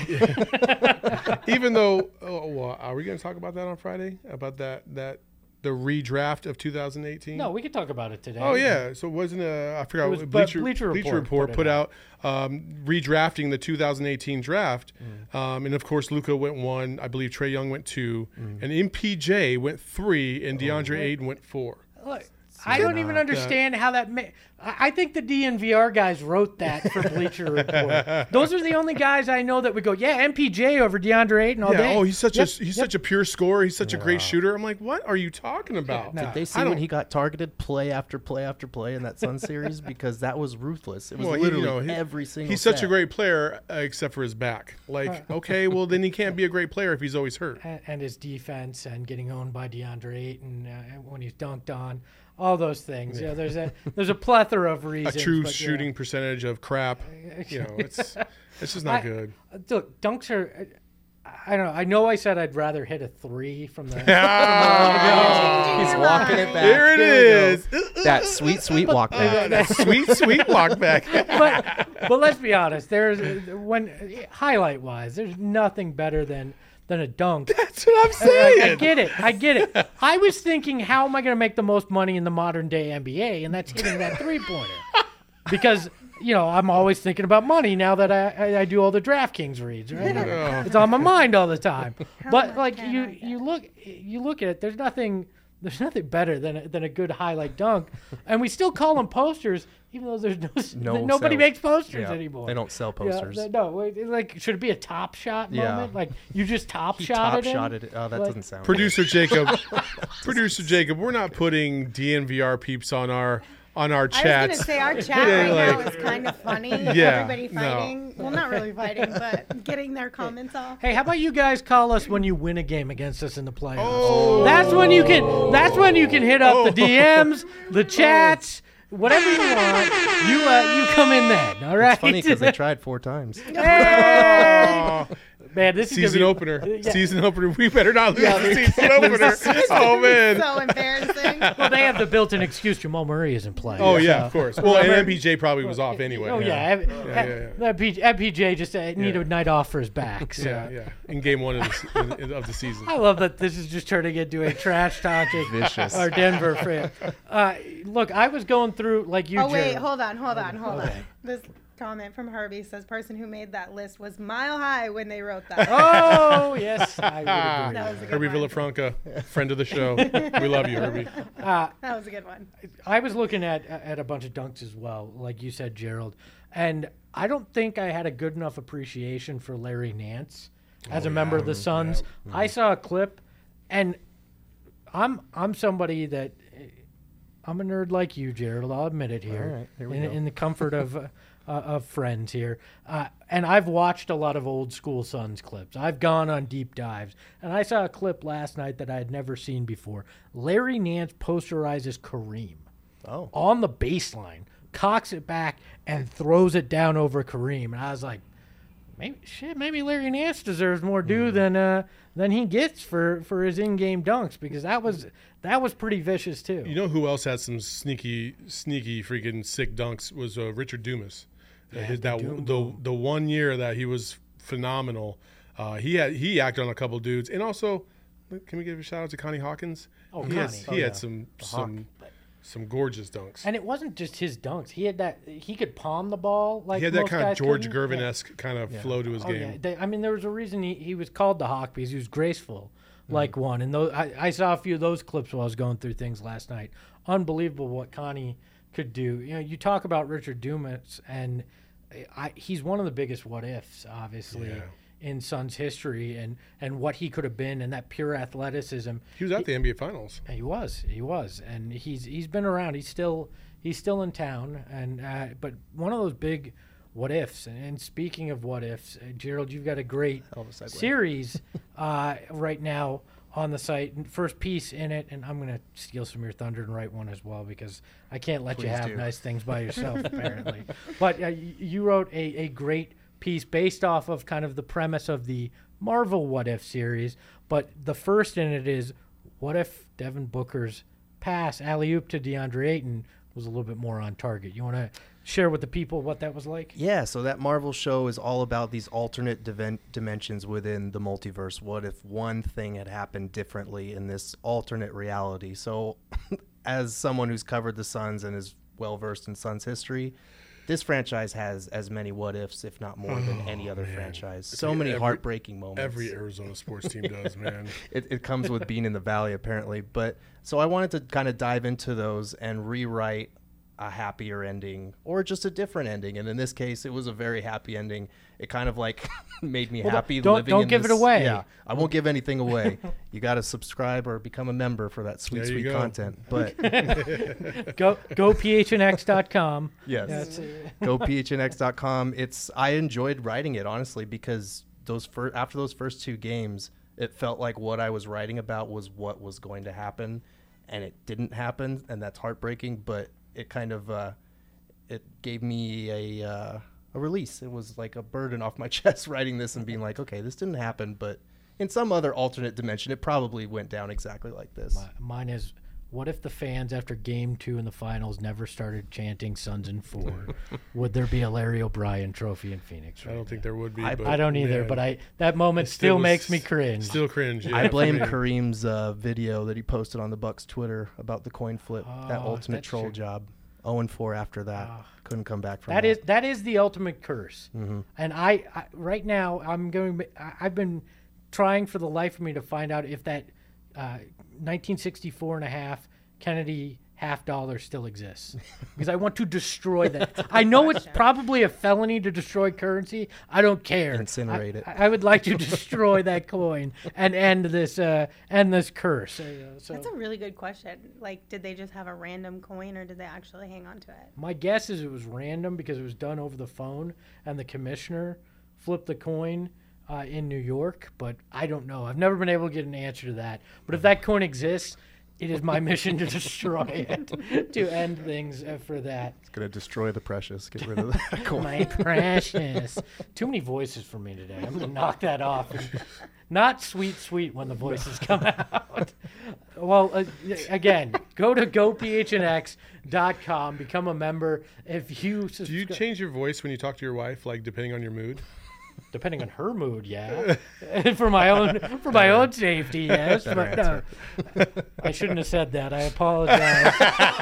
Even though, well, are we going to talk about that on Friday? About the redraft of 2018? No, we could talk about it today. Oh yeah, so it wasn't I forgot It was what Bleacher Report Report put put it out redrafting the 2018 draft, and of course Luka went 1, I believe Trae Young went 2, and MPJ went 3, and DeAndre Ayton went 4. Look, I don't even understand how that. I think the DNVR guys wrote that for Bleacher Report. Those are the only guys I know that would go, yeah, MPJ over DeAndre Ayton all Yeah, day. oh, he's such Yep, such a pure scorer. He's such a great shooter. I'm like, what are you talking about? no. Did they see I when don't- he got targeted play after play after play in that Sun series? Because that was ruthless. It was Well, literally every single He's such a set. great player, except for his back. Like, okay, well then he can't be a great player if he's always hurt. And his defense and getting owned by DeAndre Ayton when he's dunked on, all those things. Yeah, there's a plethora of A reasons. true but, yeah. shooting percentage of crap. You know, it's just not good. Look, dunks are. I don't know. I know I said I'd rather hit a 3 from the. He's Changing your walking it mind. back. Here it we go. is. That sweet walk back. That sweet walk back. but let's be honest. When highlight wise, there's nothing better than a dunk. That's what I'm I saying. get it. I was thinking, how am I going to make the most money in the modern day NBA? And that's hitting that 3-pointer. Because, I'm always thinking about money now that I do all the DraftKings reads, right? It's on my mind all the time. But much like can I you look at it, there's nothing better than a good highlight dunk. And we still call them posters, even though there's nobody makes posters Yeah, anymore. they don't sell posters. Like, should it be a top shot Yeah. moment? Like, you just top He shot top it in? shotted it. Oh, that Like- doesn't sound Producer Jacob, we're not putting DNVR peeps on our I was going to chats. say our chat Yeah, right like- now is kind of funny. Yeah, Everybody no. fighting. Well, not really fighting, but getting their comments off. Hey, how about you guys call us when you win a game against us in the playoffs? Oh. That's when you can hit up the DMs, the chats, whatever you want. You come in then, all right? It's funny because they tried 4 times. Oh, Man, this is season gonna be, opener. Yeah. Season opener. We better not lose the season opener. Oh man. So embarrassing. Well, they have the built-in excuse Jamal Murray isn't playing. Oh yeah, so- of course. Well, and MPJ probably was off anyway. Oh yeah, yeah. MPJ just need Yeah. a night off for his back. So. Yeah. In game 1 of the season. I love that this is just turning into a trash talking Vicious. our Denver fan. Look, I was going through like you. Oh wait, Jared. hold on. Okay. This comment from Herbie says person who made that list was mile high when they wrote that. Oh yes, I would agree. That was a good Herbie one. Villafranca, friend of the show. We love you, Herbie. That was a good one. I was looking at a bunch of dunks as well, like you said, Gerald, and I don't think I had a good enough appreciation for Larry Nance as a member of the Suns. I saw a clip, and I'm somebody that I'm a nerd like you, Gerald. I'll admit it here, All right, here we in, go. in the comfort of friends here. And I've watched a lot of old school Suns clips. I've gone on deep dives, and I saw a clip last night that I had never seen before. Larry Nance posterizes Kareem Oh. on the baseline, cocks it back, and throws it down over Kareem. And I was like, maybe Larry Nance deserves more due than he gets for his in-game dunks, because that was pretty vicious too. You know who else had some sneaky freaking sick dunks was Richard Dumas. The 1 year that he was phenomenal. He acted on a couple dudes, and also, can we give a shout out to Connie Hawkins? Oh, he Connie. Has, he had some Some gorgeous dunks. And it wasn't just his dunks. He had that. He could palm the ball like He had that most kind of guys George couldn't. Gervin-esque kind of flow to his game. Yeah. I mean, there was a reason he was called the Hawk, because he was graceful like one. And those, I saw a few of those clips while I was going through things last night. Unbelievable what Connie could do. You know, you talk about Richard Dumas, and he's one of the biggest what ifs, obviously. Yeah. In Suns history, and what he could have been, and that pure athleticism. He was at the NBA Finals. He was, and he's been around. He's still in town, and but one of those big what ifs. And speaking of what ifs, Gerald, you've got a great series right now on the site. And first piece in it, and I'm going to steal some of your thunder and write one as well, because I can't let you have nice things by yourself, apparently. But you wrote a great piece based off of kind of the premise of the Marvel What If series, but the first in it is, what if Devin Booker's pass alley-oop to DeAndre Ayton was a little bit more on target? You want to share with the people what that was like? Yeah, so that Marvel show is all about these alternate dimensions within the multiverse. What if one thing had happened differently in this alternate reality? So as someone who's covered the Suns and is well-versed in Suns history, this franchise has as many what ifs, if not more, than any other franchise. So many heartbreaking moments. Every Arizona sports team does, man. It comes with being in the Valley, apparently. But so I wanted to kind of dive into those and rewrite a happier ending or just a different ending. And in this case, it was a very happy ending. It kind of like made me happy living don't in give this. it away. Yeah, I won't give anything away. You got to subscribe or become a member for that sweet content. But go phnx.com. Yes. Go phnx.com. I enjoyed writing it, honestly, because after those first two games, it felt like what I was writing about was what was going to happen, and it didn't happen, and that's heartbreaking. But it kind of it gave me a release. It was like a burden off my chest writing this and being like, okay, this didn't happen, but in some other alternate dimension, it probably went down exactly like this. Mine is, what if the fans after Game 2 in the finals never started chanting Suns in 4? Would there be a Larry O'Brien trophy in Phoenix? I don't think there would be. I don't either, but that moment still makes me cringe. Still cringe. Yeah, I blame Kareem's video that he posted on the Bucks Twitter about the coin flip, that ultimate troll job. 0-4 after that. Couldn't come back from that. That is the ultimate curse. Mm-hmm. And I right now I've been trying for the life of me to find out if that 1964 and a half Kennedy $50 still exists, because I want to destroy that. I know it's probably a felony to destroy currency. I don't care. Incinerate it. I would like to destroy that coin and end this curse. So that's a really good question. Like, did they just have a random coin, or did they actually hang on to it? My guess is it was random, because it was done over the phone, and the commissioner flipped the coin in New York. But I don't know. I've never been able to get an answer to that. But if that coin exists, it is my mission to destroy it, to end things for that. It's going to destroy the precious. Get rid of that coin. My precious. Too many voices for me today. I'm going to knock that off. Not sweet when the voices come out. Well, again, go to gophnx.com, become a member. If you Do you change your voice when you talk to your wife, like depending on your mood? Depending on her mood, yeah. for my own safety, yes. But no, I shouldn't have said that. I apologize.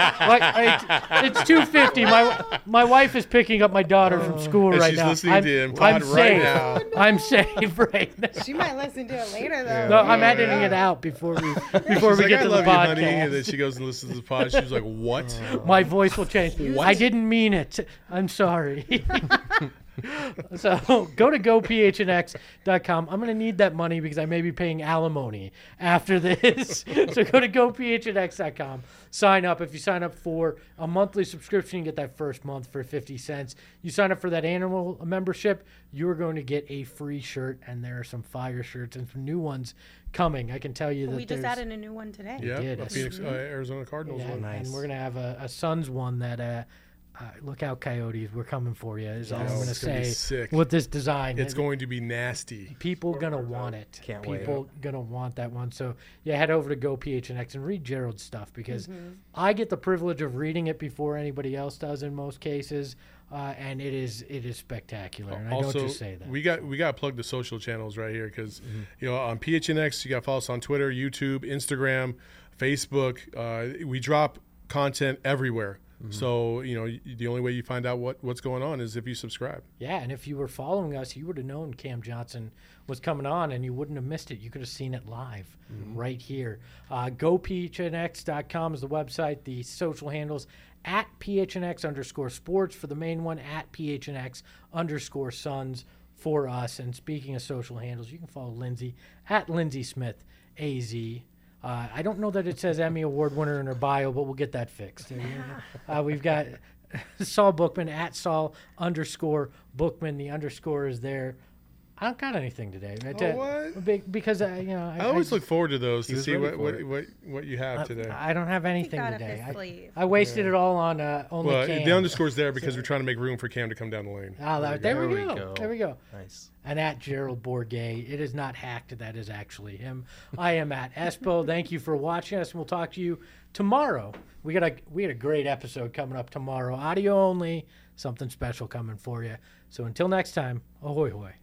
It's 2:50. My wife is picking up my daughter from school right now. She's listening to him pod right now. I'm safe right now. She might listen to it later, though. No, I'm editing it out before we She's get like, to I the love podcast. you, honey. And then she goes and listens to the pod. She's like, what? My voice will change. I didn't mean it. I'm sorry. So go to gophnx.com. I'm going to need that money because I may be paying alimony after this. So go to gophnx.com. Sign up. If you sign up for a monthly subscription, you get that first month for 50 cents. You sign up for that annual membership, you're going to get a free shirt, and there are some fire shirts and some new ones coming. I can tell you that we just added a new one today. Yeah, did. a Phoenix, Arizona Cardinals one. And we're going to have a Suns one that look out, Coyotes, we're coming for you, is all I'm going to say sick. with this design. It's going to be nasty. People going to want it. Can't wait. People going to want that one. So, yeah, head over to GoPHNX and read Gerald's stuff, because I get the privilege of reading it before anybody else does in most cases, and it is spectacular. And also, I don't just say that. we got to plug the social channels right here, because on PHNX, you got to follow us on Twitter, YouTube, Instagram, Facebook. We drop content everywhere. So, the only way you find out what's going on is if you subscribe. Yeah, and if you were following us, you would have known Cam Johnson was coming on, and you wouldn't have missed it. You could have seen it live right here. GoPHNX.com is the website. The social handles at PHNX_sports for the main one, at PHNX_Suns for us. And speaking of social handles, you can follow Lindsay at Lindsay Smith AZ. I don't know that it says Emmy Award winner in her bio, but we'll get that fixed. We've got Saul Bookman at Saul_Bookman. The underscore is there. I don't got anything today. What? Because I always look forward to those to see ready what you have today. I don't have anything got up today. his sleeve. I wasted it all on only Well, Cam. the underscore's there because we're trying to make room for Cam to come down the lane. There we go. There we go. Nice. And at Gerald Bourget. It is not hacked. That is actually him. I am at Espo. Thank you for watching us, and we'll talk to you tomorrow. We had a great episode coming up tomorrow. Audio only. Something special coming for you. So until next time, ahoy hoy.